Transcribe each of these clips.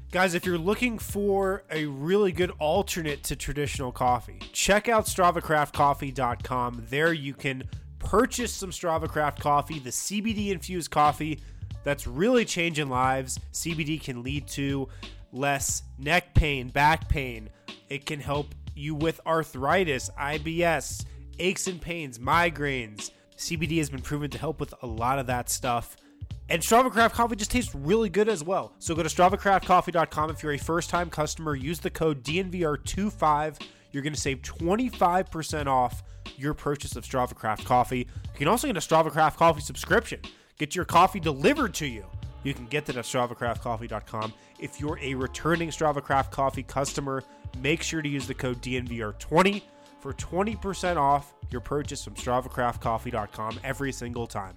Guys, if you're looking for a really good alternate to traditional coffee, check out StravaCraftCoffee.com. There you can purchase some StravaCraft coffee, the CBD-infused coffee that's really changing lives. CBD can lead to less neck pain, back pain. It can help you with arthritis, IBS, aches and pains, migraines. CBD has been proven to help with a lot of that stuff. And StravaCraft coffee just tastes really good as well. So go to StravaCraftCoffee.com. If you're a first-time customer, use the code DNVR25. You're going to save 25% off your purchase of StravaCraft coffee. You can also get a StravaCraft coffee subscription. Get your coffee delivered to you. You can get that at StravaCraftCoffee.com. If you're a returning StravaCraft coffee customer, make sure to use the code DNVR20 for 20% off your purchase from StravaCraftCoffee.com every single time.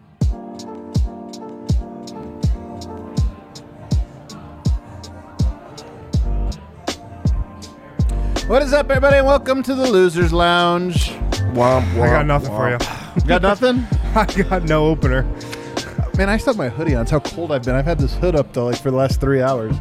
What is up, everybody, and welcome to the Losers Lounge. I got nothing for you. Got nothing? I got no opener. Man, I still have my hoodie on. That's how cold I've been. I've had this hood up though, for the last 3 hours.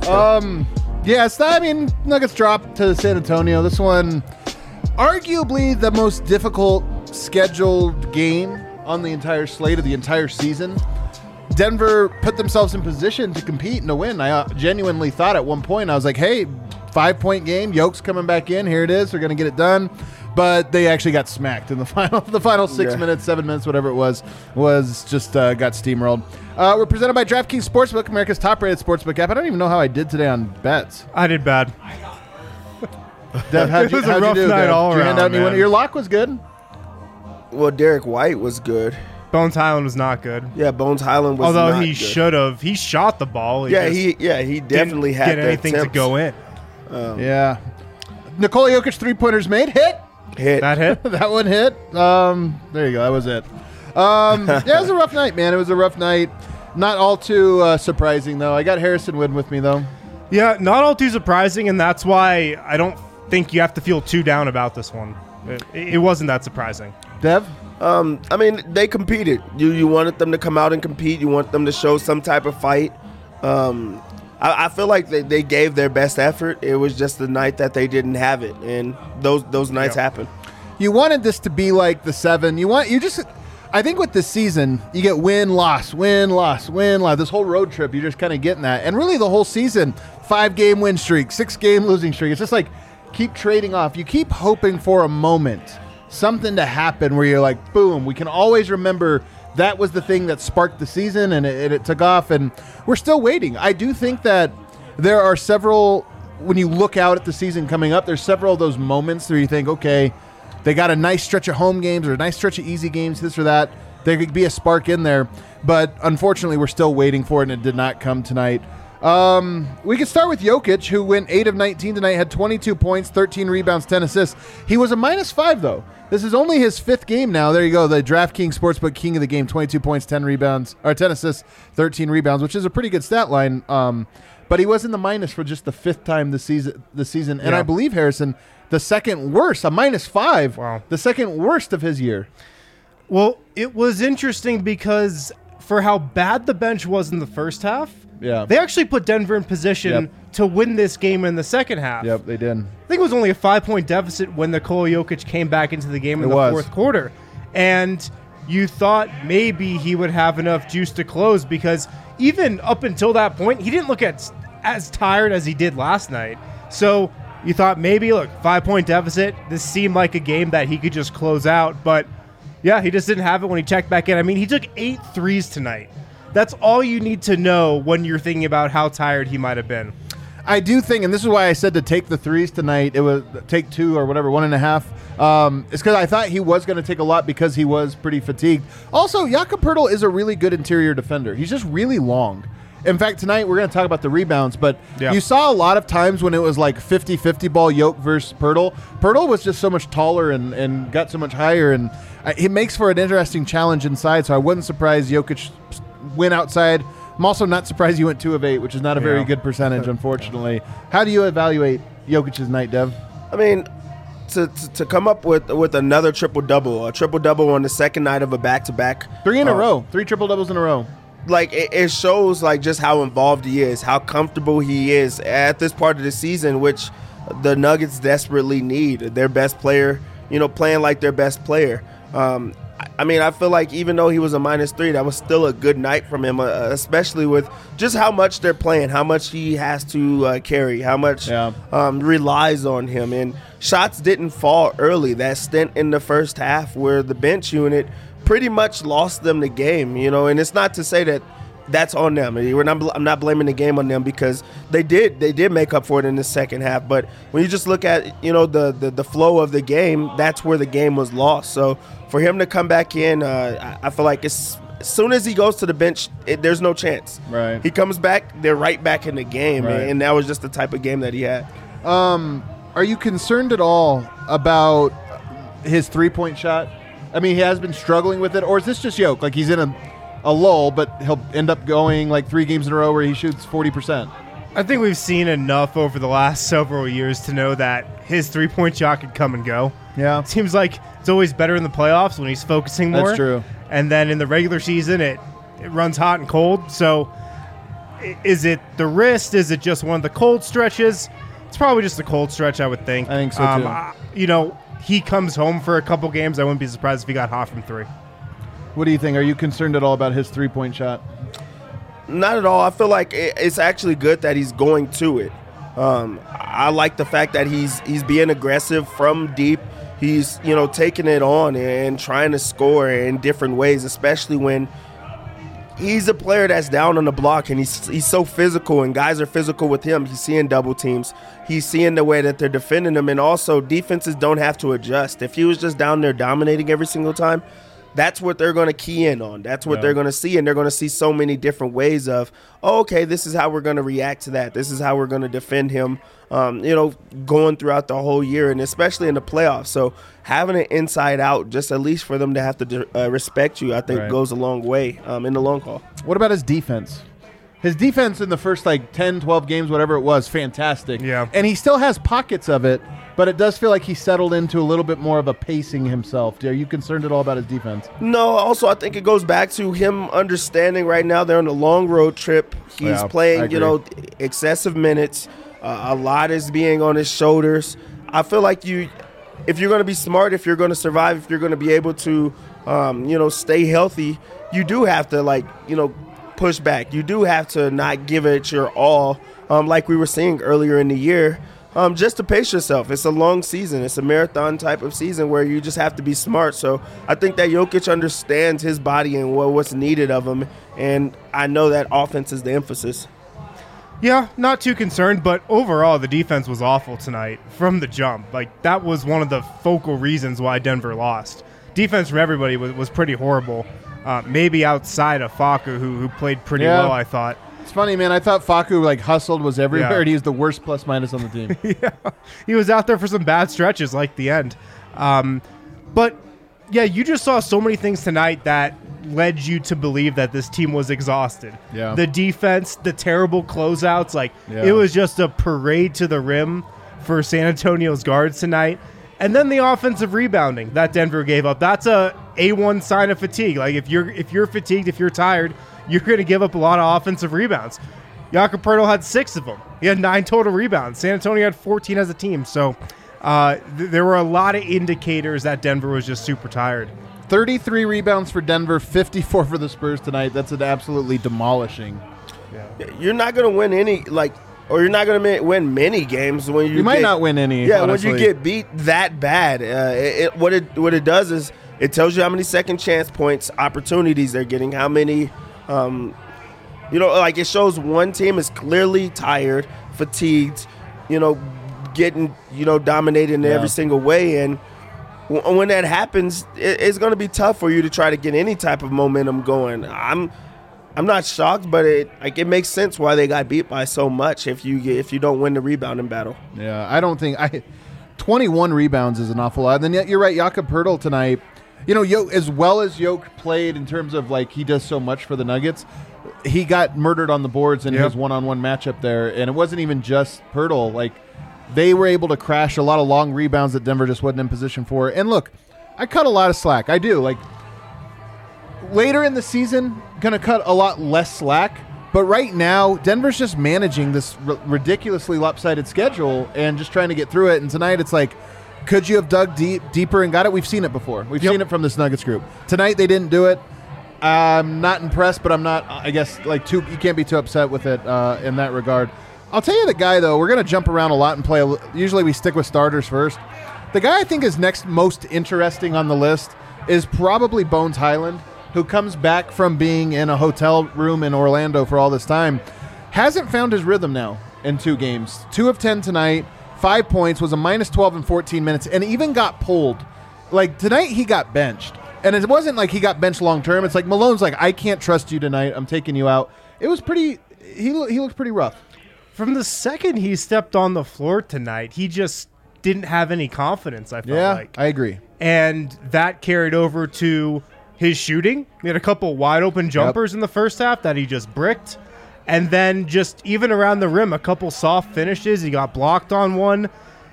Nuggets dropped to San Antonio. This one, arguably the most difficult scheduled game on the entire slate of the entire season. Denver put themselves in position to compete and to win. I genuinely thought at one point, I was like, hey, 5-point game, Yoke's coming back in. Here it is. They're going to get it done. But they actually got smacked in the final 6 minutes, 7 minutes, whatever it was just got steamrolled. We're presented by DraftKings Sportsbook, America's top-rated sportsbook app. I don't even know how I did today on bets. I did bad. Dev, how'd you do? Night all did you around, hand out any man. winner? Your lock was good. Well, Derek White was good. Bones Highland was not good. Yeah, Bones Highland was Although not he good. should have. He shot the ball. He definitely had get anything to go in. Yeah. Nikola Jokic three-pointers made. Hit. That hit? That one hit. There you go. That was it. It was a rough night, man. It was a rough night. Not all too surprising, though. I got Harrison Wind with me, though. Yeah, not all too surprising, and that's why I don't think you have to feel too down about this one. It wasn't that surprising. Dev? I mean, they competed. You wanted them to come out and compete. You want them to show some type of fight. I feel like they gave their best effort. It was just the night that they didn't have it, and those nights happen. You wanted this to be like the 7. I think with this season, you get win, loss, win, loss, win, loss. This whole road trip, you're just kind of getting that. And really the whole season, 5-game win streak, 6-game losing streak. It's just like keep trading off. You keep hoping for a moment, something to happen where you're like, boom, we can always remember that was the thing that sparked the season, and it took off, and we're still waiting. I do think that there are several, when you look out at the season coming up, there's several of those moments where you think, okay, they got a nice stretch of home games or a nice stretch of easy games, this or that. There could be a spark in there, but unfortunately we're still waiting for it, and it did not come tonight. We could start with Jokic, who went 8 of 19 tonight, had 22 points, 13 rebounds, 10 assists. He was a -5, though. This is only his 5th game now. There you go. The DraftKings Sportsbook king of the game, 22 points, 10 rebounds, or 10 assists, 13 rebounds, which is a pretty good stat line. But he was in the minus for just the 5th time this season. And I believe, Harrison, the second worst, a -5, Wow. The second worst of his year. Well, it was interesting because for how bad the bench was in the first half, they actually put Denver in position to win this game in the second half. Yep, they did. I think it was only a 5-point deficit when Nikola Jokic came back into the game in the fourth quarter. And you thought maybe he would have enough juice to close because even up until that point, he didn't look as tired as he did last night. So you thought maybe, look, 5-point deficit, this seemed like a game that he could just close out. But, yeah, he just didn't have it when he checked back in. I mean, he took 8 threes tonight. That's all you need to know when you're thinking about how tired he might have been. I do think, and this is why I said to take the threes tonight, it was take 2 or whatever, 1.5. It's because I thought he was going to take a lot because he was pretty fatigued. Also, Jakob Poeltl is a really good interior defender. He's just really long. In fact, tonight we're going to talk about the rebounds, but you saw a lot of times when it was like 50-50 ball Yoke versus Poeltl. Poeltl was just so much taller and got so much higher, and it makes for an interesting challenge inside, so I wasn't surprised Jokic went outside. I'm also not surprised he went 2 of 8, which is not a very good percentage, unfortunately. How do you evaluate Jokic's night, Dev? I mean, to come up with another triple-double, a triple-double on the second night of a back-to-back. 3 in a row. 3 triple-doubles in a row. like it shows like just how involved he is, how comfortable he is at this part of the season, which the Nuggets desperately need. Their best player, playing like their best player. I mean, I feel like even though he was a -3, that was still a good night from him, especially with just how much they're playing, how much he has to carry, how much relies on him. And shots didn't fall early. That stint in the first half where the bench unit pretty much lost them the game, and it's not to say that that's on them. I'm not blaming the game on them because they did make up for it in the second half. But when you just look at the flow of the game, that's where the game was lost. So for him to come back in, I feel like as soon as he goes to the bench, there's no chance. Right. He comes back, they're right back in the game, right. And that was just the type of game that he had. Are you concerned at all about his 3-point shot? I mean, he has been struggling with it, or is this just Yoke? Like he's in a lull, but he'll end up going like 3 games in a row where he shoots 40%. I think we've seen enough over the last several years to know that his 3-point shot could come and go. Yeah. It seems like it's always better in the playoffs when he's focusing more. That's true. And then in the regular season, it runs hot and cold. So is it the wrist? Is it just one of the cold stretches? It's probably just a cold stretch, I would think. I think so, too. He comes home for a couple games. I wouldn't be surprised if he got hot from 3. What do you think? Are you concerned at all about his 3-point shot? Not at all. I feel like it's actually good that he's going to it. I like the fact that he's being aggressive from deep. He's taking it on and trying to score in different ways, especially when he's a player that's down on the block and he's so physical and guys are physical with him. He's seeing double teams. He's seeing the way that they're defending him, and also defenses don't have to adjust. If he was just down there dominating every single time, that's what they're going to key in on. That's what they're going to see, and they're going to see so many different ways of, okay, this is how we're going to react to that. This is how we're going to defend him, going throughout the whole year, and especially in the playoffs. So having it inside out, just at least for them to have to respect you, I think goes a long way in the long haul. What about his defense? His defense in the first 10, 12 games, whatever it was, fantastic. Yeah. And he still has pockets of it, but it does feel like he settled into a little bit more of a pacing himself. Are you concerned at all about his defense? No, also I think it goes back to him understanding right now they're on a long road trip. He's playing, excessive minutes. A lot is being on his shoulders. I feel like if you're going to be smart, if you're going to survive, if you're going to be able to, stay healthy, you do have to push back. You do have to not give it your all, like we were saying earlier in the year, just to pace yourself. It's a long season. It's a marathon type of season where you just have to be smart. So I think that Jokic understands his body and what's needed of him, and I know that offense is the emphasis. Yeah, not too concerned, but overall the defense was awful tonight from the jump. Like, that was one of the focal reasons why Denver lost. Defense from everybody was pretty horrible. Maybe outside of Facu, who played pretty well, I thought. It's funny, man. I thought Facu hustled, was everywhere, and he's the worst plus-minus on the team. Yeah, he was out there for some bad stretches like the end. But, yeah, you just saw so many things tonight that led you to believe that this team was exhausted. Yeah. The defense, the terrible closeouts, it was just a parade to the rim for San Antonio's guards tonight. And then the offensive rebounding that Denver gave up. That's a A1 sign of fatigue. Like, if you're fatigued, if you're tired, you're going to give up a lot of offensive rebounds. Jakob Poeltl had 6 of them. He had 9 total rebounds. San Antonio had 14 as a team. So there were a lot of indicators that Denver was just super tired. 33 rebounds for Denver, 54 for the Spurs tonight. That's an absolutely demolishing. Yeah. You're not going to win any, or you're not going to win many games when you might not win any. Yeah, honestly. when you get beat that bad. What it does is it tells you how many second chance points, opportunities they're getting, how many, it shows one team is clearly tired, fatigued, getting, dominated in every single way. And when that happens, it's going to be tough for you to try to get any type of momentum going. I'm not shocked, but it makes sense why they got beat by so much if you don't win the rebounding battle. Yeah, I don't think 21 rebounds is an awful lot. And then you're right, Jakob Poeltl tonight. As well as Yoke played in terms of he does so much for the Nuggets, he got murdered on the boards in his one-on-one matchup there, and it wasn't even just Poeltl. They were able to crash a lot of long rebounds that Denver just wasn't in position for. And look, I cut a lot of slack. I do. later in the season, going to cut a lot less slack. But right now, Denver's just managing this ridiculously lopsided schedule and just trying to get through it. And tonight, it's like, could you have dug deeper and got it? We've seen it before. We've seen it from this Nuggets group. Tonight, they didn't do it. I'm not impressed, but I'm not, I guess, you can't be too upset with it in that regard. I'll tell you the guy, though, we're going to jump around a lot and play. Usually we stick with starters first. The guy I think is next most interesting on the list is probably Bones Hyland, who comes back from being in a hotel room in Orlando for all this time, hasn't found his rhythm now in 2 games. 2 of 10 tonight, 5 points, was a minus 12 in 14 minutes, and even got pulled. Like, tonight he got benched. And it wasn't like he got benched long term. It's like Malone's like, I can't trust you tonight. I'm taking you out. It was pretty – he looked pretty rough. From the second he stepped on the floor tonight, he just didn't have any confidence, I felt like. Yeah, I agree. And that carried over to – his shooting. He had a couple wide open jumpers in the first half that he just bricked. And then just even around the rim, a couple soft finishes. He got blocked on one.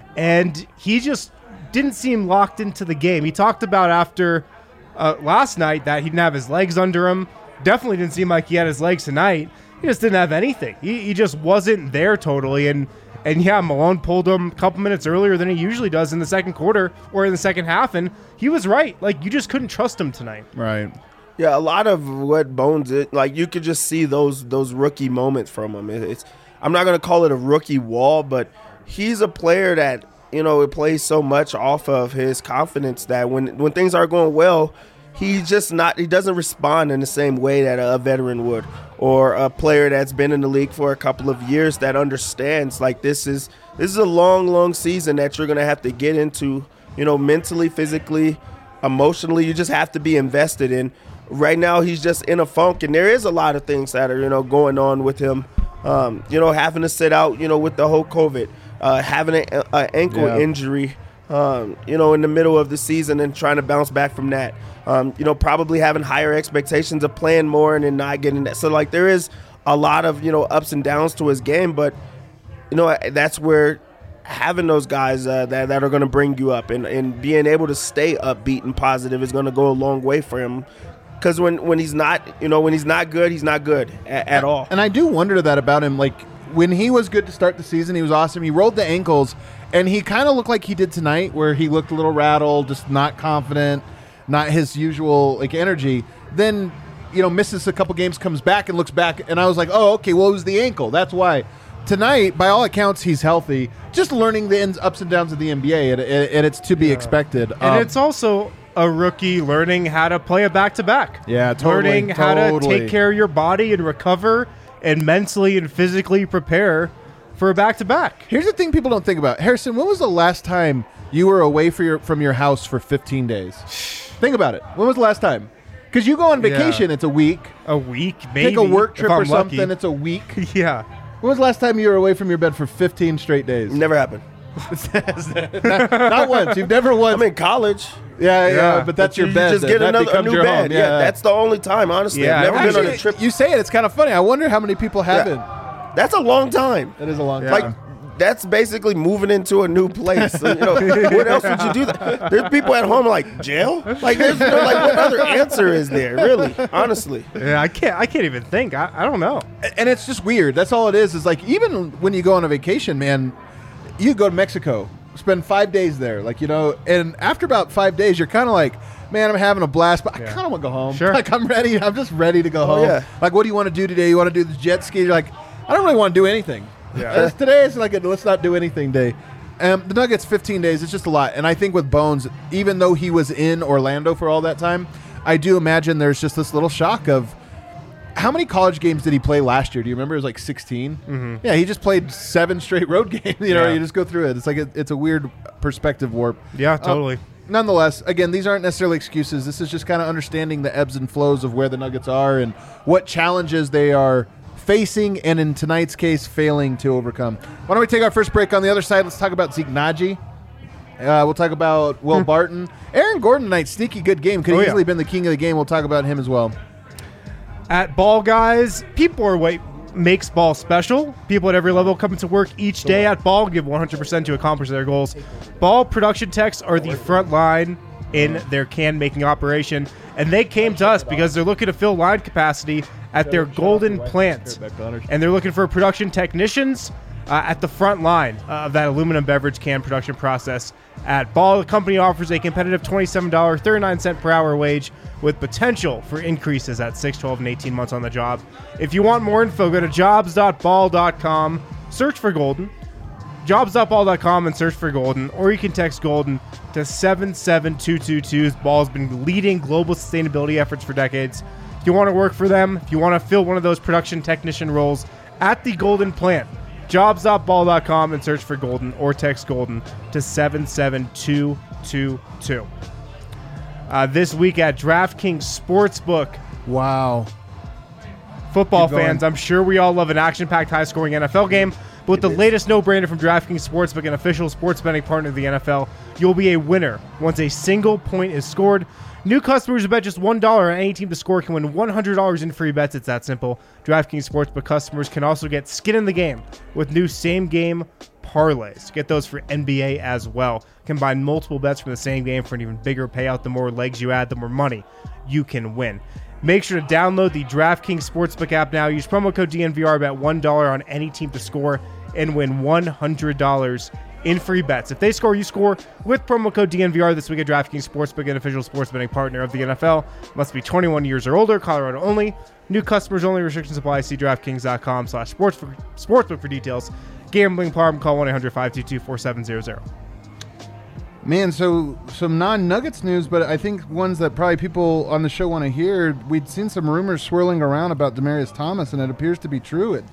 And he just didn't seem locked into the game. He talked about after last night that he didn't have his legs under him. Definitely didn't seem like he had his legs tonight. He just didn't have anything. He just wasn't there totally. And yeah, Malone pulled him a couple minutes earlier than he usually does in the second quarter or in the second half, and he was right. Like, you just couldn't trust him tonight. Right. Yeah, a lot of what Bones did, like, you could just see those rookie moments from him. I'm not going to call it a rookie wall, but he's a player that, it plays so much off of his confidence that when things are going well, he doesn't respond in the same way that a veteran would, or a player that's been in the league for a couple of years that understands, like, this is a long season that you're going to have to get into, mentally, physically, emotionally. You just have to be invested in. Right now, he's just in a funk, and there is a lot of things that are, going on with him. Having to sit out, with the whole COVID, having an ankle injury, in the middle of the season and trying to bounce back from that. Probably having higher expectations of playing more and then not getting that. So, like, there is a lot of, ups and downs to his game, but, that's where having those guys that are going to bring you up and being able to stay upbeat and positive is going to go a long way for him. Because when he's not, when he's not good, he's not good at all. And I do wonder that about him. Like, when he was good to start the season, he was awesome. He rolled the ankles, and he kind of looked like he did tonight, where he looked a little rattled, just not confident, not his usual, energy. Then, misses a couple games, comes back and looks back, and I was like, oh, okay, well, it was the ankle. That's why. Tonight, by all accounts, he's healthy. Just learning the ups and downs of the NBA, and it's to be expected. And it's also a rookie learning how to play a back-to-back. Yeah, totally. Learning how to take care of your body and recover and mentally and physically prepare for a back-to-back. Here's the thing people don't think about. Harrison, when was the last time you were away from your house for 15 days? Think about it. When was the last time? Because you go on vacation, it's a week. A week, maybe. Take a work trip or something, lucky. It's a week. Yeah. When was the last time you were away from your bed for 15 straight days? Never happened. not once. You've never once. I'm in college. Yeah, but that's your bed. You just get a new bed. Yeah, that's the only time, honestly. Yeah, I've never been on a trip. You say it's kind of funny. I wonder how many people haven't. That's a long time. That is a long time. Like, that's basically moving into a new place. So, what else would you do? There's people at home like, jail? Like, there's what other answer is there? Really, honestly. Yeah, I can't even think. I don't know. And it's just weird. That's all it is. Is like, even when you go on a vacation, man, you go to Mexico, spend 5 days there, and after about 5 days, you're kind of like, man, I'm having a blast, but I kind of want to go home. Sure. Like, I'm ready. I'm just ready to go home. Yeah. Like, what do you want to do today? You want to do the jet ski? You're like, I don't really want to do anything. Yeah. Today is like a let's not do anything day. The Nuggets, 15 days, it's just a lot. And I think with Bones, even though he was in Orlando for all that time, I do imagine there's just this little shock of how many college games did he play last year? Do you remember? It was like 16. Mm-hmm. Yeah, he just played 7 straight road games. You just go through it. It's like it's a weird perspective warp. Yeah, totally. Nonetheless, again, these aren't necessarily excuses. This is just kind of understanding the ebbs and flows of where the Nuggets are and what challenges they are facing, and in tonight's case, failing to overcome. Why don't we take our first break? On the other side, let's talk about Zeke Naji. We'll talk about Will Barton. Aaron Gordon tonight, sneaky good game. Could have easily been the king of the game. We'll talk about him as well. At Ball Guys, people are what makes Ball special. People at every level coming to work each day at Ball give 100% to accomplish their goals. Ball production techs are the front line in their can-making operation. And they came to us because they're looking to fill line capacity at their Golden plant. And they're looking for production technicians at the front line of that aluminum beverage can production process at Ball. The company offers a competitive $27.39 per hour wage with potential for increases at 6, 12, and 18 months on the job. If you want more info, go to jobs.ball.com, search for Golden, jobs.ball.com and search for Golden, or you can text Golden to 77222. Ball's been leading global sustainability efforts for decades. If you want to work for them, if you want to fill one of those production technician roles at the Golden plant, jobs.ball.com and search for Golden, or text Golden to 77222. This week at DraftKings Sportsbook. Wow. Football fans, I'm sure we all love an action-packed, high-scoring NFL game, but with the latest no-brainer from DraftKings Sportsbook, an official sports betting partner of the NFL, you'll be a winner once a single point is scored. New customers who bet just $1 on any team to score can win $100 in free bets. It's that simple. DraftKings Sportsbook customers can also get skin in the game with new same-game parlays. Get those for NBA as well. Combine multiple bets from the same game for an even bigger payout. The more legs you add, the more money you can win. Make sure to download the DraftKings Sportsbook app now. Use promo code DNVR, bet $1 on any team to score, and win $100 in free bets. If they score, you score with promo code DNVR this week at DraftKings Sportsbook, an official sports betting partner of the NFL. Must be 21 years or older, Colorado only. New customers only. Restrictions apply. See DraftKings.com/sportsbook for details. Gambling problem, call 1-800-522-4700. Man, so some non-Nuggets news, but I think ones that probably people on the show want to hear. We'd seen some rumors swirling around about Demaryius Thomas, and it appears to be true. It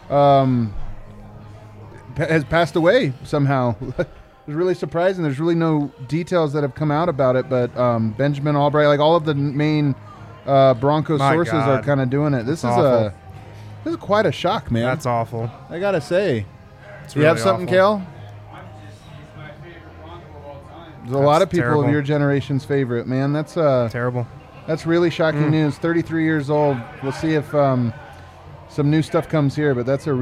has passed away somehow. It's really surprising. There's really no details that have come out about it, but Benjamin Albright, like all of the main Broncos sources are kind of doing it. This is quite a shock, man. That's awful. I gotta say. It's you really have something, awful. Kale? There's a lot of people of your generation's favorite, man. That's terrible. That's really shocking news. 33 years old. We'll see if some new stuff comes here, but that's a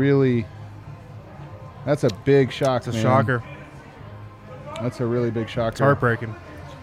big shock. It's a shocker. That's a really big shocker. It's heartbreaking.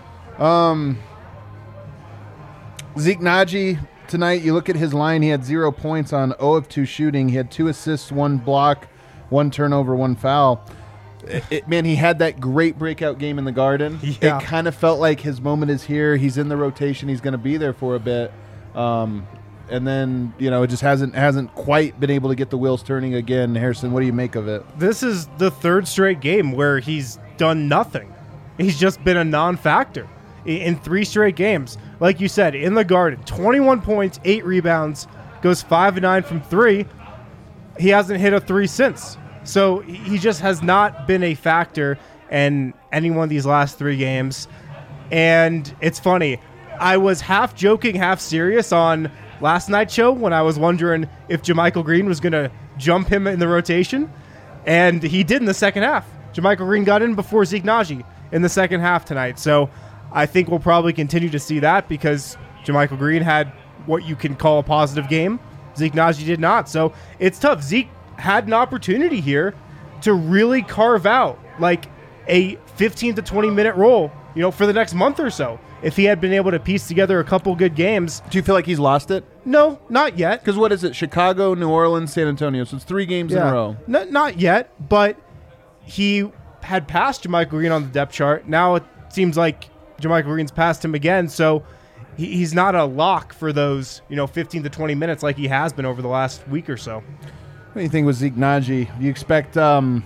Zeke Nnaji tonight, you look at his line, he had 0 points on 0 of 2 shooting. He had 2 assists, 1 block, 1 turnover, 1 foul. Man, he had that great breakout game in the Garden. Yeah. It kind of felt like his moment is here. He's in the rotation. He's going to be there for a bit. And then, it just hasn't quite been able to get the wheels turning again. Harrison, what do you make of it? This is the third straight game where he's done nothing. He's just been a non-factor in 3 straight games. Like you said, in the Garden, 21 points, 8 rebounds, goes 5 of 9 from 3. He hasn't hit a 3 since. So he just has not been a factor in any one of these last 3 games. And it's funny. I was half joking, half serious on last night's show when I was wondering if JaMychal Green was going to jump him in the rotation. And he did in the second half. JaMychal Green got in before Zeke Nnaji in the second half tonight. So I think we'll probably continue to see that because JaMychal Green had what you can call a positive game. Zeke Nnaji did not. So it's tough. Zeke had an opportunity here to really carve out like a 15 to 20 minute role, for the next month or so. If he had been able to piece together a couple good games. Do you feel like he's lost it? No, not yet. Because what is it? Chicago, New Orleans, San Antonio. So it's 3 games in a row. Not yet, but he had passed JaMychal Green on the depth chart. Now it seems like JaMychal Green's passed him again. So he's not a lock for those, 15 to 20 minutes like he has been over the last week or so. What do you think with Zeke Nnaji? Do you expect, does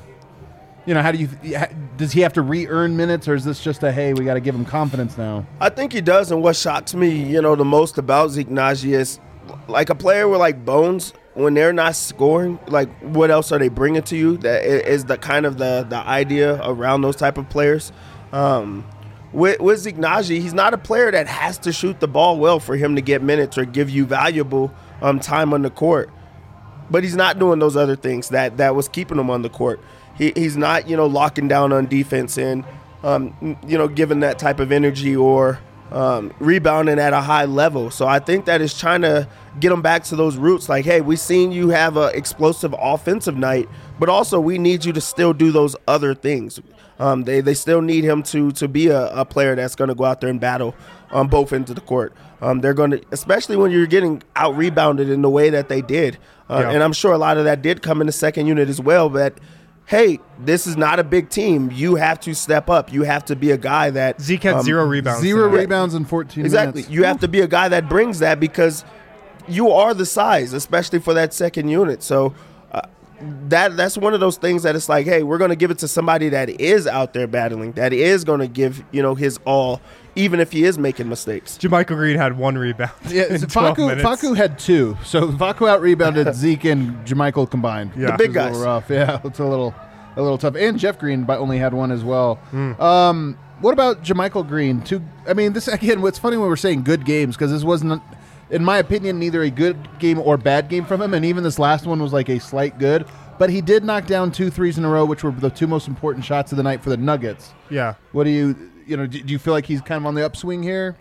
he have to re-earn minutes, or is this just hey, we got to give him confidence now? I think he does, and what shocks me, the most about Zeke Nnaji is, like a player with like Bones, when they're not scoring, like what else are they bringing to you? That is the kind of the idea around those type of players. With Zeke Nnaji, he's not a player that has to shoot the ball well for him to get minutes or give you valuable time on the court. But he's not doing those other things that was keeping him on the court. He's not, locking down on defense and, giving that type of energy or rebounding at a high level. So I think that is trying to get him back to those roots. Like, hey, we've seen you have an explosive offensive night, but also we need you to still do those other things. They still need him to be a player that's going to go out there and battle on both ends of the court. They're going to, especially when you're getting out rebounded in the way that they did. And I'm sure a lot of that did come in the second unit as well. But hey, this is not a big team. You have to step up. You have to be a guy that Zeke had 0 rebounds. 0 rebounds in 14 minutes. Exactly. You have to be a guy that brings that because you are the size, especially for that second unit. So that's one of those things that it's like, hey, we're going to give it to somebody that is out there battling, that is going to give his all, even if he is making mistakes. JaMychal Green had 1 rebound. Yeah, Facu had 2. So Facu out rebounded Zeke and JaMychal combined. Yeah, the big guys. A little rough. Yeah, it's a little tough. And Jeff Green only had 1 as well. What about JaMychal Green? This again. What's funny when we're saying good games, because this wasn't, in my opinion, neither a good game or bad game from him, and even this last one was like a slight good. But he did knock down 2 threes in a row, which were the 2 most important shots of the night for the Nuggets. Yeah. What do you feel like he's kind of on the upswing here?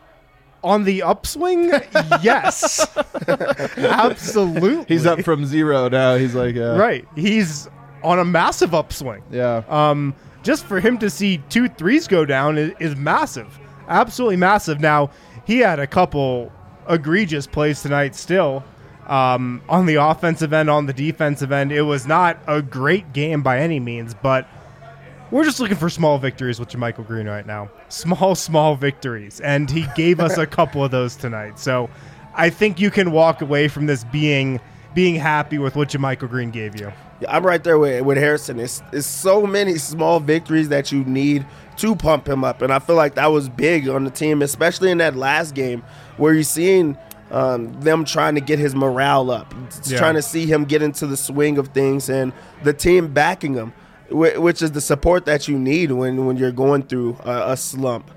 On the upswing? Yes. Absolutely. He's up from 0 now. He's like right. He's on a massive upswing. Yeah. Just for him to see 2 threes go down is massive. Absolutely massive. Now, he had a couple egregious plays tonight still. On the offensive end, on the defensive end, it was not a great game by any means, but we're just looking for small victories with JaMychal Green right now. Small victories, and he gave us a couple of those tonight. So I think you can walk away from this being happy with what JaMychal Green gave you. Yeah, I'm right there with Harrison. It's so many small victories that you need to pump him up, and I feel like that was big on the team, especially in that last game where you're seeing them trying to get his morale up, trying to see him get into the swing of things, and the team backing him, which is the support that you need when you're going through a slump.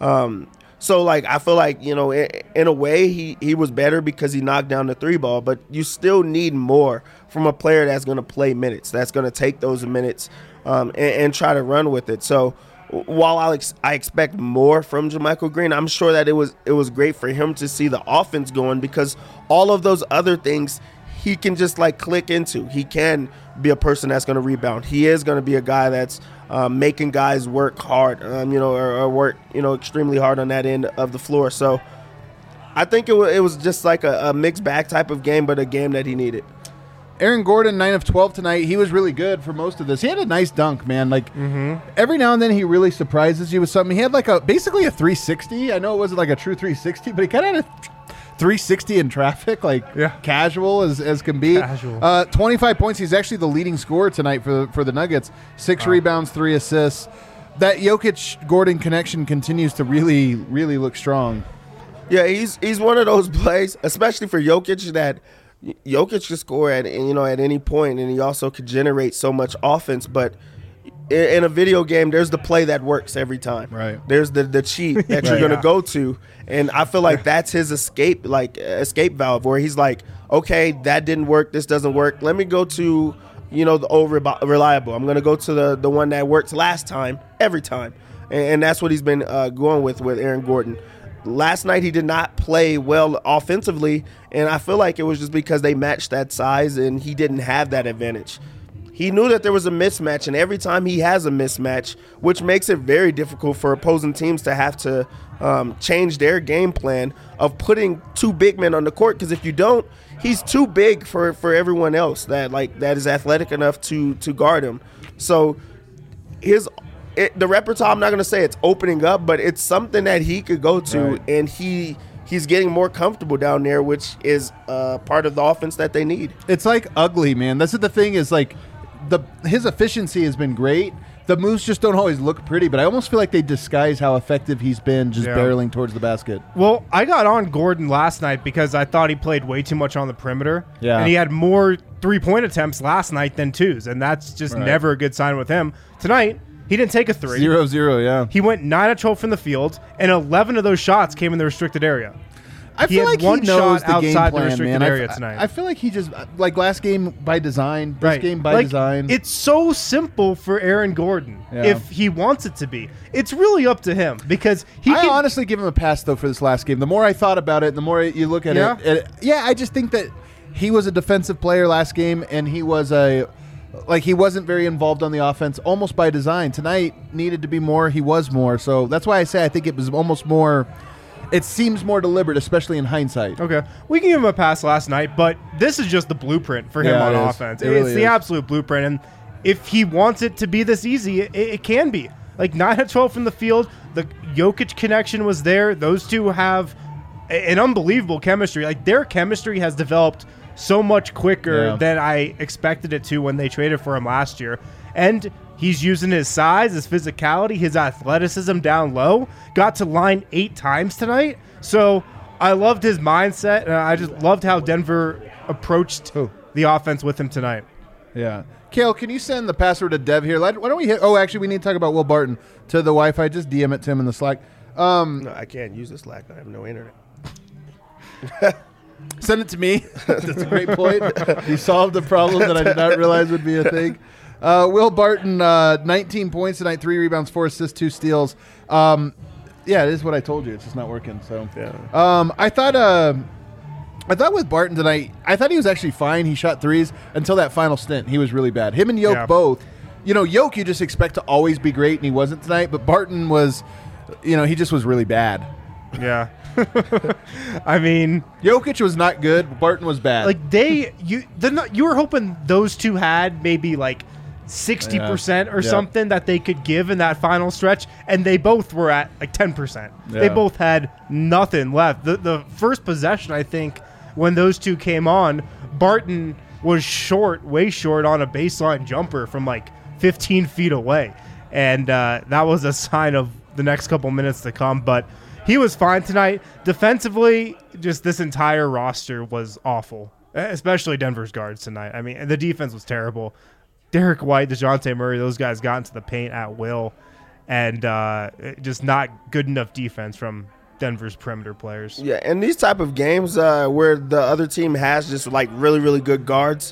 So, like, I feel like, in a way, he was better because he knocked down the 3 ball, but you still need more from a player that's going to play minutes, that's going to take those minutes and try to run with it. So, while I expect more from JaMychal Green, I'm sure that it was great for him to see the offense going, because all of those other things he can just like click into. He can be a person that's going to rebound. He is going to be a guy that's making guys work hard, or work extremely hard on that end of the floor. So I think it was just like a mixed bag type of game, but a game that he needed. Aaron Gordon, 9 of 12 tonight. He was really good for most of this. He had a nice dunk, man. Like every now and then he really surprises you with something. He had like basically a 360. I know it wasn't like a true 360, but he kind of had a 360 in traffic, casual as can be. Casual. 25 points. He's actually the leading scorer tonight for the Nuggets. 6 rebounds, 3 assists. That Jokic-Gordon connection continues to really, really look strong. Yeah, he's one of those plays, especially for Jokic, that Jokic can score at any point, and he also could generate so much offense. But in a video game, there's the play that works every time. Right. There's the cheat that you're going to go to, and I feel like that's his escape valve, where he's like, okay, that didn't work, this doesn't work. Let me go to the old reliable. I'm going to go to the one that worked last time every time, and that's what he's been going with Aaron Gordon. Last night he did not play well offensively, and I feel like it was just because they matched that size and he didn't have that advantage. He knew that there was a mismatch, and every time he has a mismatch, which makes it very difficult for opposing teams to have to change their game plan of putting 2 big men on the court, because if you don't, he's too big for everyone else that is athletic enough to guard him. So the repertoire, I'm not going to say it's opening up, but it's something that he could go to, right. And he's getting more comfortable down there, which is part of the offense that they need. It's like ugly, man. That's the thing is, like, his efficiency has been great. The moves just don't always look pretty, but I almost feel like they disguise how effective he's been just barreling towards the basket. Well, I got on Gordon last night because I thought he played way too much on the perimeter. Yeah. And he had more 3-point attempts last night than 2s, and that's just never a good sign with him. Tonight, he didn't take a 3. 0-0, yeah. He went 9 of 12 from the field, and 11 of those shots came in the restricted area. I feel like he knows the game plan, the restricted man. area tonight. I feel like he just, like last game by design, this game by design. It's so simple for Aaron Gordon if he wants it to be. It's really up to him because I honestly give him a pass, though, for this last game. The more I thought about it, the more you look at it. I just think that he was a defensive player last game, and he was like he wasn't very involved on the offense, almost by design. Tonight needed to be more. He was more. So that's why I say I think it was almost more. It seems more deliberate, especially in hindsight. Okay. We can give him a pass last night, but this is just the blueprint for him on offense. It's the absolute blueprint. And if he wants it to be this easy, it can be. Like 9 of 12 from the field. The Jokic connection was there. Those two have an unbelievable chemistry. Like their chemistry has developed so much quicker than I expected it to when they traded for him last year. And he's using his size, his physicality, his athleticism down low. Got to line 8 times tonight. So I loved his mindset, and I just loved how Denver approached the offense with him tonight. Yeah. Kale, can you send the password to Dev here? Why don't we hit – actually, we need to talk about Will Barton to the Wi-Fi. Just DM it to him in the Slack. No, I can't use the Slack. I have no internet. Send it to me. That's a great point. You solved the problem that I did not realize would be a thing. Will Barton, 19 points tonight, 3 rebounds, 4 assists, 2 steals. Yeah, it is what I told you. It's just not working. So, I thought with Barton tonight, I thought he was actually fine. He shot threes until that final stint. He was really bad. Him and Yoke both. You know, Yoke you just expect to always be great, and he wasn't tonight. But Barton was, he just was really bad. Yeah. I mean, Jokic was not good. Barton was bad. Like you were hoping those two had maybe like 60% or something that they could give in that final stretch, and they both were at like 10%. Yeah. They both had nothing left. The first possession, I think, when those two came on, Barton was way short on a baseline jumper from like 15 feet away, and that was a sign of the next couple minutes to come. But he was fine tonight. Defensively, just this entire roster was awful, especially Denver's guards tonight. I mean, the defense was terrible. Derek White, DeJounte Murray, those guys got into the paint at will, and just not good enough defense from Denver's perimeter players. Yeah, and these type of games where the other team has just like really, really good guards,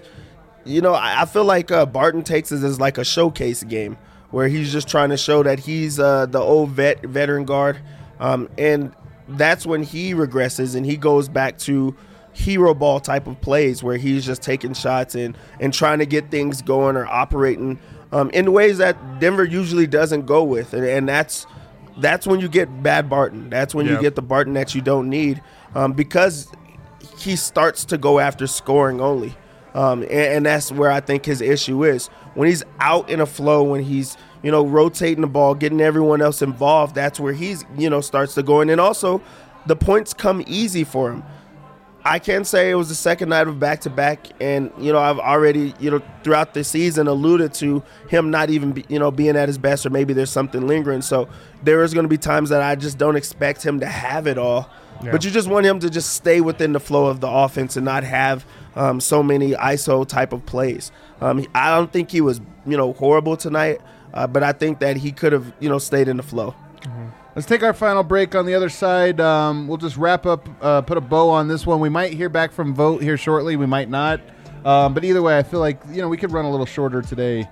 I feel like Barton takes it as like a showcase game where he's just trying to show that he's the old veteran guard. And that's when he regresses and he goes back to hero ball type of plays where he's just taking shots and trying to get things going or operating in ways that Denver usually doesn't go with. And that's when you get bad Barton. That's when you get the Barton that you don't need because he starts to go after scoring only. And that's where I think his issue is. When he's out in a flow, when he's rotating the ball, getting everyone else involved, that's where he's, starts to go. And then also the points come easy for him. I can say it was the second night of back-to-back, and, I've already, throughout the season alluded to him not even, being at his best, or maybe there's something lingering. So there is going to be times that I just don't expect him to have it all. Yeah. But you just want him to just stay within the flow of the offense and not have so many ISO type of plays. I don't think he was, horrible tonight. But I think that he could have, stayed in the flow. Mm-hmm. Let's take our final break. On the other side, we'll just wrap up, put a bow on this one. We might hear back from Vogt here shortly. We might not. But either way, I feel like, we could run a little shorter today.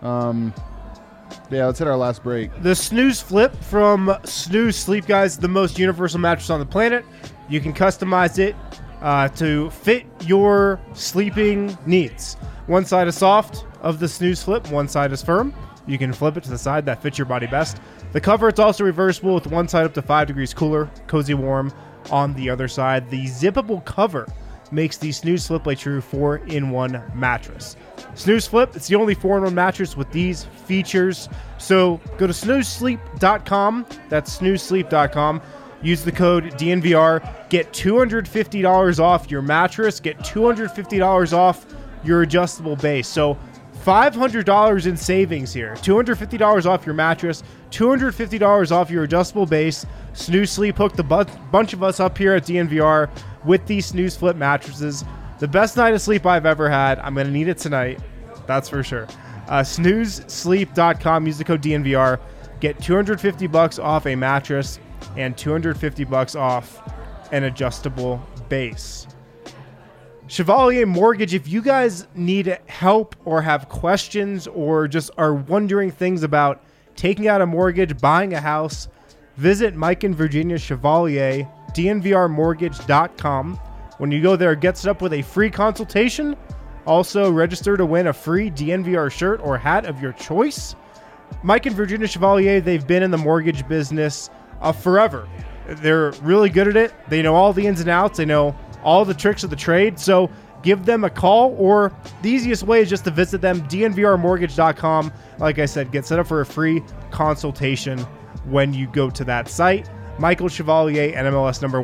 Let's hit our last break. The Snooze Flip from Snooze Sleep, guys, the most universal mattress on the planet. You can customize it to fit your sleeping needs. One side is soft of the Snooze Flip, one side is firm. You can flip it to the side that fits your body best. The cover, it's also reversible with one side up to 5 degrees cooler, cozy warm on the other side. The zippable cover makes the Snooze Flip a true 4-in-1 mattress. Snooze Flip, it's the only 4-in-1 mattress with these features. So go to snoozesleep.com. That's snoozesleep.com. Use the code DNVR. Get $250 off your mattress. Get $250 off your adjustable base. So $500 in savings here. $250 off your mattress, $250 off your adjustable base. Snooze Sleep hooked a bunch of us up here at DNVR with these Snooze Flip mattresses. The best night of sleep I've ever had. I'm going to need it tonight. That's for sure. Snoozesleep.com. Use the code DNVR. Get $250 off a mattress and $250 off an adjustable base. Chevalier Mortgage, if you guys need help or have questions or just are wondering things about taking out a mortgage, buying a house, visit Mike and Virginia Chevalier, dnvrmortgage.com. When you go there, get set up with a free consultation Also, register to win a free DNVR shirt or hat of your choice. Mike and Virginia Chevalier, they've been in the mortgage business forever. They're really good at it. They know all the ins and outs. They know all the tricks of the trade. So give them a call, or the easiest way is just to visit them, dnvrmortgage.com. Like I said, get set up for a free consultation when you go to that site. Michael Chevalier, NMLS number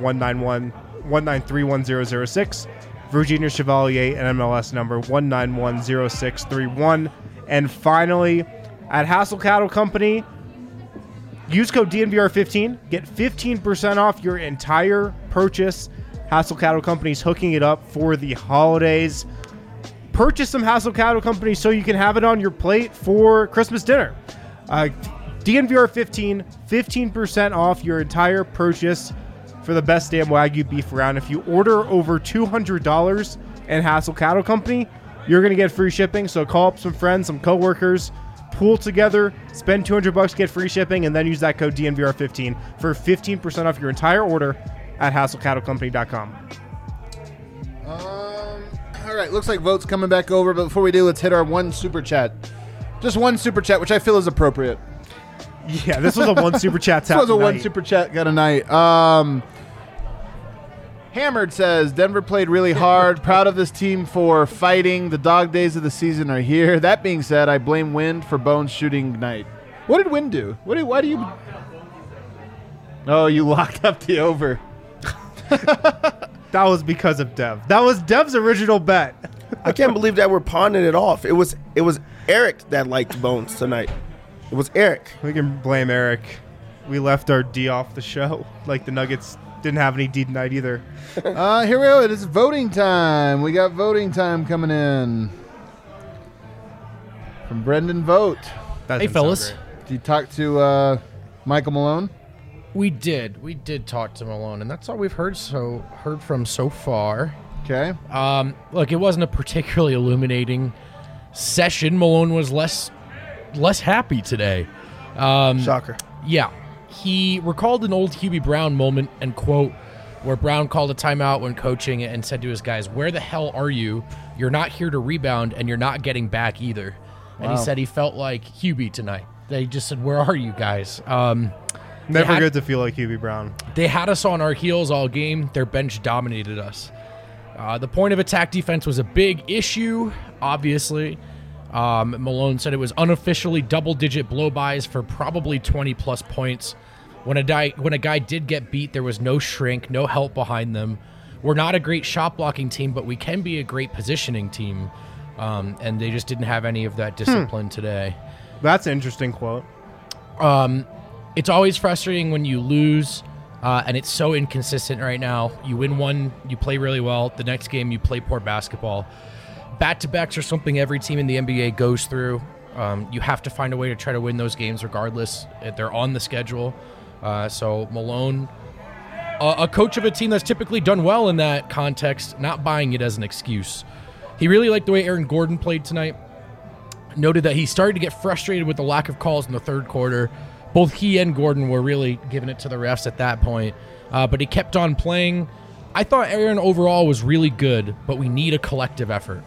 1931006. Virginia Chevalier, NMLS number 1910631. And finally, at Hassel Cattle Company, use code DNVR15. Get 15% off your entire purchase. Hassel Cattle Company's hooking it up for the holidays. Purchase some Hassel Cattle Company so you can have it on your plate for Christmas dinner. DNVR15, 15% off your entire purchase for the best damn Wagyu beef around. If you order over $200 in Hassel Cattle Company, you're going to get free shipping. So call up some friends, some coworkers, pool together, spend $200, get free shipping, and then use that code DNVR15 for 15% off your entire order at HassleCattleCompany.com. All right, looks like votes coming back over, but before we do, let's hit our one super chat. Just one super chat, which I feel is appropriate. Yeah, this was a one super chat. This was a one super chat kind of night. Hammered says, Denver played really hard. Proud of this team for fighting. The dog days of the season are here. That being said, I blame Wind for Bones shooting night. What did Wind do? Why do you... Oh, you locked up the over. That was because of Dev. That was Dev's original bet. I can't believe that we're pawning it off. It was Eric that liked Bones tonight. It was Eric. We can blame Eric. We left our D off the show. Like the Nuggets didn't have any D tonight either. Here we go. It is voting time. We got voting time coming in from Brendan Vogt. Hey, fellas. Did you talk to Michael Malone? We did. We did talk to Malone, and that's all we've heard from so far. Okay. Look, it wasn't a particularly illuminating session. Malone was less happy today. Shocker. Yeah. He recalled an old Hubie Brown moment and quote where Brown called a timeout when coaching and said to his guys, "Where the hell are you? You're not here to rebound, and you're not getting back either." And he said he felt like Hubie tonight. They just said, "Where are you guys?" Never good to feel like Hubie Brown. They had us on our heels all game. Their bench dominated us. The point of attack defense was a big issue, obviously. Malone said it was unofficially double-digit blow-bys for probably 20-plus points. When a guy did get beat, there was no shrink, no help behind them. We're not a great shot-blocking team, but we can be a great positioning team. And they just didn't have any of that discipline today. That's an interesting quote. It's always frustrating when you lose, and it's so inconsistent right now. You win one, you play really well. The next game, you play poor basketball. Back-to-backs are something every team in the NBA goes through. You have to find a way to try to win those games regardless. They're on the schedule. So Malone, a coach of a team that's typically done well in that context, not buying it as an excuse. He really liked the way Aaron Gordon played tonight. Noted that he started to get frustrated with the lack of calls in the third quarter. Both he and Gordon were really giving it to the refs at that point. But he kept on playing. I thought Aaron overall was really good, but we need a collective effort.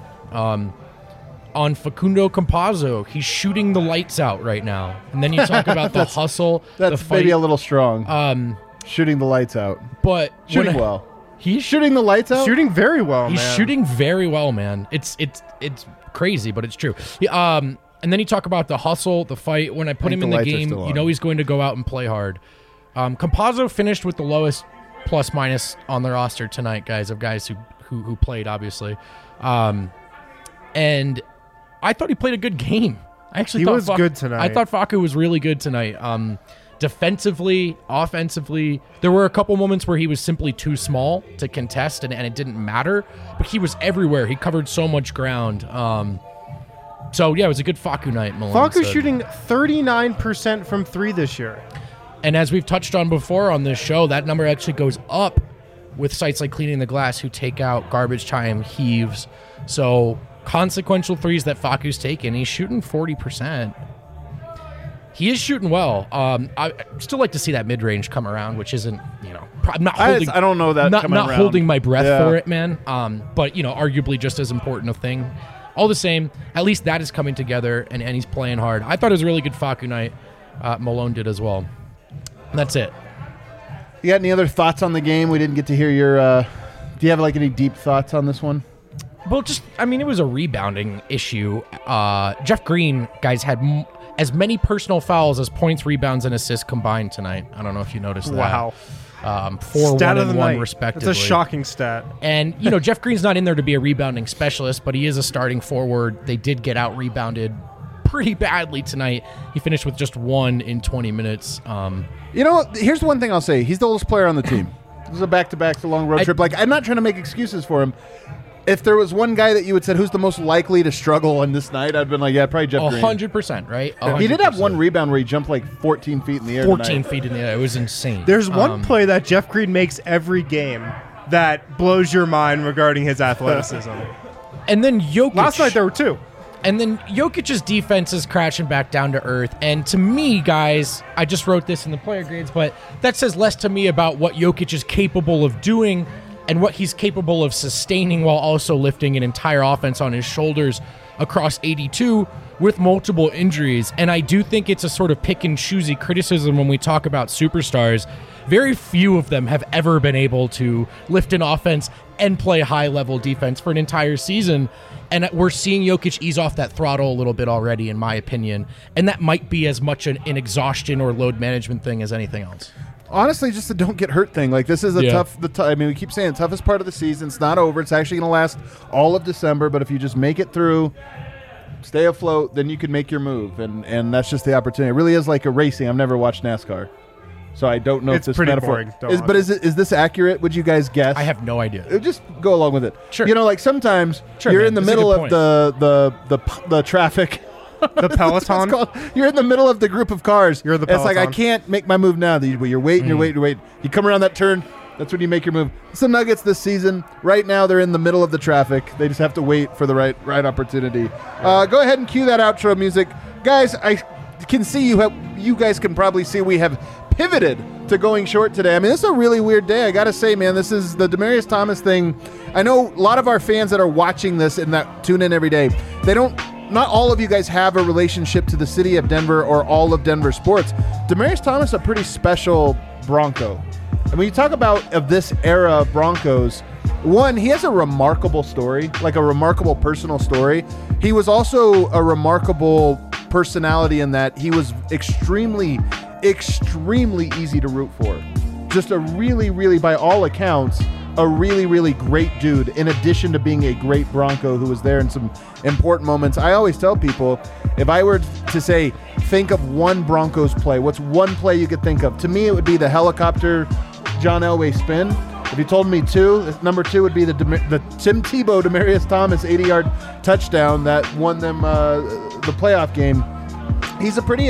On Facundo Campazzo, he's shooting the lights out right now. And then you talk about the hustle, that's the fight. Maybe a little strong. Shooting the lights out. But shooting well. He's shooting the lights out? Shooting very well, He's shooting very well, man. It's crazy, but it's true. And then you talk about the hustle, the fight. When I put him in the game, you know he's going to go out and play hard. Campazzo finished with the lowest plus-minus on the roster tonight, guys, of guys who played, obviously. And I thought he played a good game. I actually thought he was good tonight. I thought Facu was really good tonight. Defensively, offensively, there were a couple moments where he was simply too small to contest, and it didn't matter. But he was everywhere. He covered so much ground. So, yeah, it was a good Facu night, Malone Facu's shooting 39% from three this year. And as we've touched on before on this show, that number actually goes up with sites like Cleaning the Glass who take out garbage time, heaves. So consequential threes that Facu's taken, he's shooting 40%. He is shooting well. I still like to see that mid-range come around, which isn't, I'm not holding. I don't know that not coming around. Holding my breath for it, man. But arguably just as important a thing. All the same, at least that is coming together, and he's playing hard. I thought it was a really good Facu night. Malone did as well. And that's it. You got any other thoughts on the game? We didn't get to hear your. Do you have any deep thoughts on this one? Well, it was a rebounding issue. Jeff Green, guys, had as many personal fouls as points, rebounds, and assists combined tonight. I don't know if you noticed that. Wow. 4, stat 1, of the and 1 night. respectively. It's a shocking stat. And, Jeff Green's not in there to be a rebounding specialist, but he is a starting forward. They did get out-rebounded pretty badly tonight. He finished with just 1 in 20 minutes. Here's one thing I'll say. He's the oldest player on the team. This is a back-to-back, a long road trip. I'm not trying to make excuses for him. If there was one guy that you would said who's the most likely to struggle on this night, I'd been like, yeah, probably Jeff Green. 100%, right? 100%. He did have one rebound where he jumped 14 feet in the air 14 feet in the air. It was insane. There's one play that Jeff Green makes every game that blows your mind regarding his athleticism. And then Jokic. Last night there were 2. And then Jokic's defense is crashing back down to earth. And to me, guys, I just wrote this in the player grades, but that says less to me about what Jokic is capable of doing and what he's capable of sustaining while also lifting an entire offense on his shoulders across 82 with multiple injuries. And I do think it's a sort of pick and choosy criticism when we talk about superstars. Very few of them have ever been able to lift an offense and play high-level defense for an entire season. And we're seeing Jokic ease off that throttle a little bit already, in my opinion. And that might be as much an exhaustion or load management thing as anything else. Honestly, just the don't get hurt thing. This is tough. We keep saying the toughest part of the season. It's not over. It's actually going to last all of December. But if you just make it through, stay afloat, then you can make your move. And that's just the opportunity. It really is like a racing. I've never watched NASCAR, so I don't know if this metaphor is this accurate? Would you guys guess? I have no idea. Just go along with it. Sure. Sometimes you're in the middle of the traffic. The peloton. You're in the middle of the group of cars. You're the peloton. It's like I can't make my move now. You're waiting. You're waiting. You come around that turn. That's when you make your move. It's the Nuggets this season. Right now, they're in the middle of the traffic. They just have to wait for the right opportunity. Go ahead and cue that outro music, guys. I can see you guys can probably see we have pivoted to going short today. I mean, this is a really weird day. I got to say, man, this is the Demaryius Thomas thing. I know a lot of our fans that are watching this and that tune in every day, not all of you guys have a relationship to the city of Denver or all of Denver sports. Demaryius Thomas is a pretty special Bronco. And when you talk about of this era of Broncos, one, he has a remarkable story, like a remarkable personal story. He was also a remarkable personality in that he was extremely, extremely easy to root for. Just a really, really, by all accounts, a really, really great dude, in addition to being a great Bronco who was there in some important moments. I always tell people, if I were to say, think of one Broncos play, what's one play you could think of? To me, it would be the helicopter John Elway spin. If you told me 2, number 2 would be the Tim Tebow Demaryius Thomas 80-yard touchdown that won them the playoff game. He's a pretty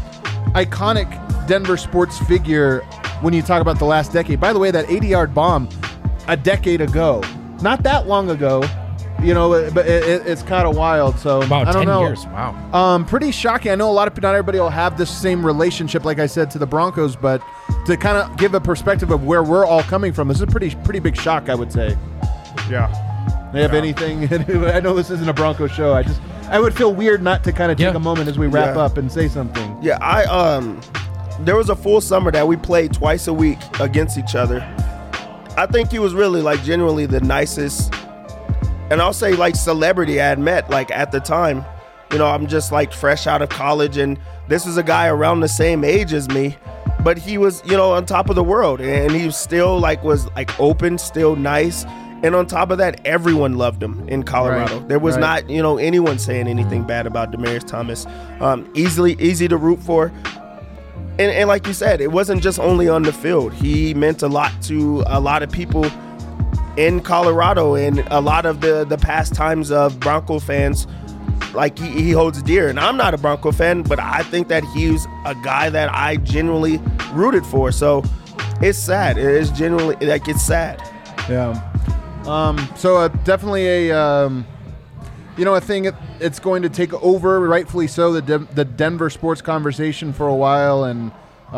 iconic Denver sports figure when you talk about the last decade. By the way, that 80-yard bomb a decade ago, not that long ago, but it's kind of wild. So about I don't 10 know. years. Wow. Pretty shocking. I know not everybody will have this same relationship, like I said, to the Broncos, but to kind of give a perspective of where we're all coming from, this is a pretty big shock, I would say. Yeah. They have anything? I know this isn't a Broncos show. I would feel weird not to kind of take a moment as we wrap up and say something. Yeah, there was a full summer that we played twice a week against each other. I think he was really genuinely the nicest, and I'll say celebrity I had met at the time. I'm just fresh out of college, and this was a guy around the same age as me, but he was on top of the world, and he still was open, still nice, and on top of that, everyone loved him in Colorado. Right. There was not anyone saying anything bad about Demaryius Thomas. Easy to root for. And like you said, it wasn't just only on the field. He meant a lot to a lot of people in Colorado, and a lot of the past times of Bronco fans, he holds dear. And I'm not a Bronco fan, but I think that he's a guy that I genuinely rooted for. So it's sad. It is genuinely it's sad. Yeah. So definitely a thing. It's going to take over, rightfully so, the Denver sports conversation for a while, and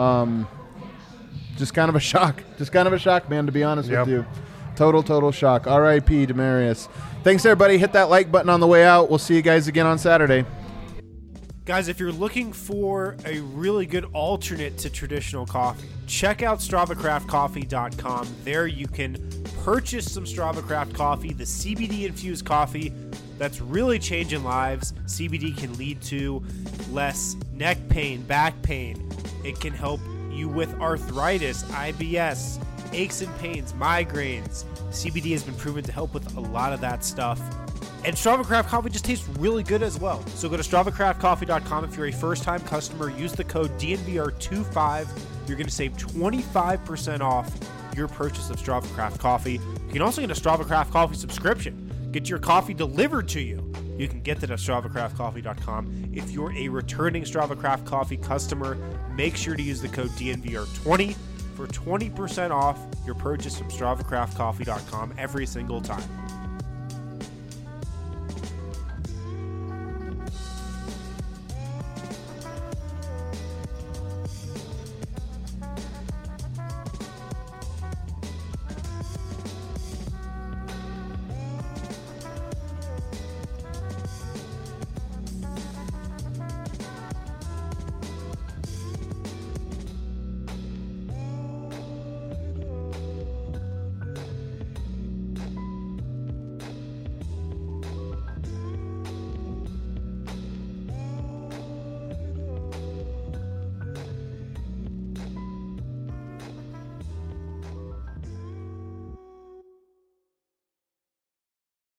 just kind of a shock. Just kind of a shock, man, to be honest with you. Total shock. R.I.P. Demaryius. Thanks, everybody. Hit that like button on the way out. We'll see you guys again on Saturday. Guys, if you're looking for a really good alternate to traditional coffee, check out StravaCraftCoffee.com. There you can purchase some Strava Craft coffee, the CBD-infused coffee that's really changing lives. CBD can lead to less neck pain, back pain. It can help you with arthritis, IBS, aches and pains, migraines. CBD has been proven to help with a lot of that stuff. And Strava Craft Coffee just tastes really good as well. So go to StravaCraftCoffee.com. If you're a first-time customer, use the code DNVR25. You're going to save 25% off your purchase of Strava Craft Coffee. You can also get a Strava Craft Coffee subscription. Get your coffee delivered to you. You can get that at StravaCraftCoffee.com. If you're a returning Strava Craft Coffee customer, make sure to use the code DNVR20 for 20% off your purchase from StravaCraftCoffee.com every single time.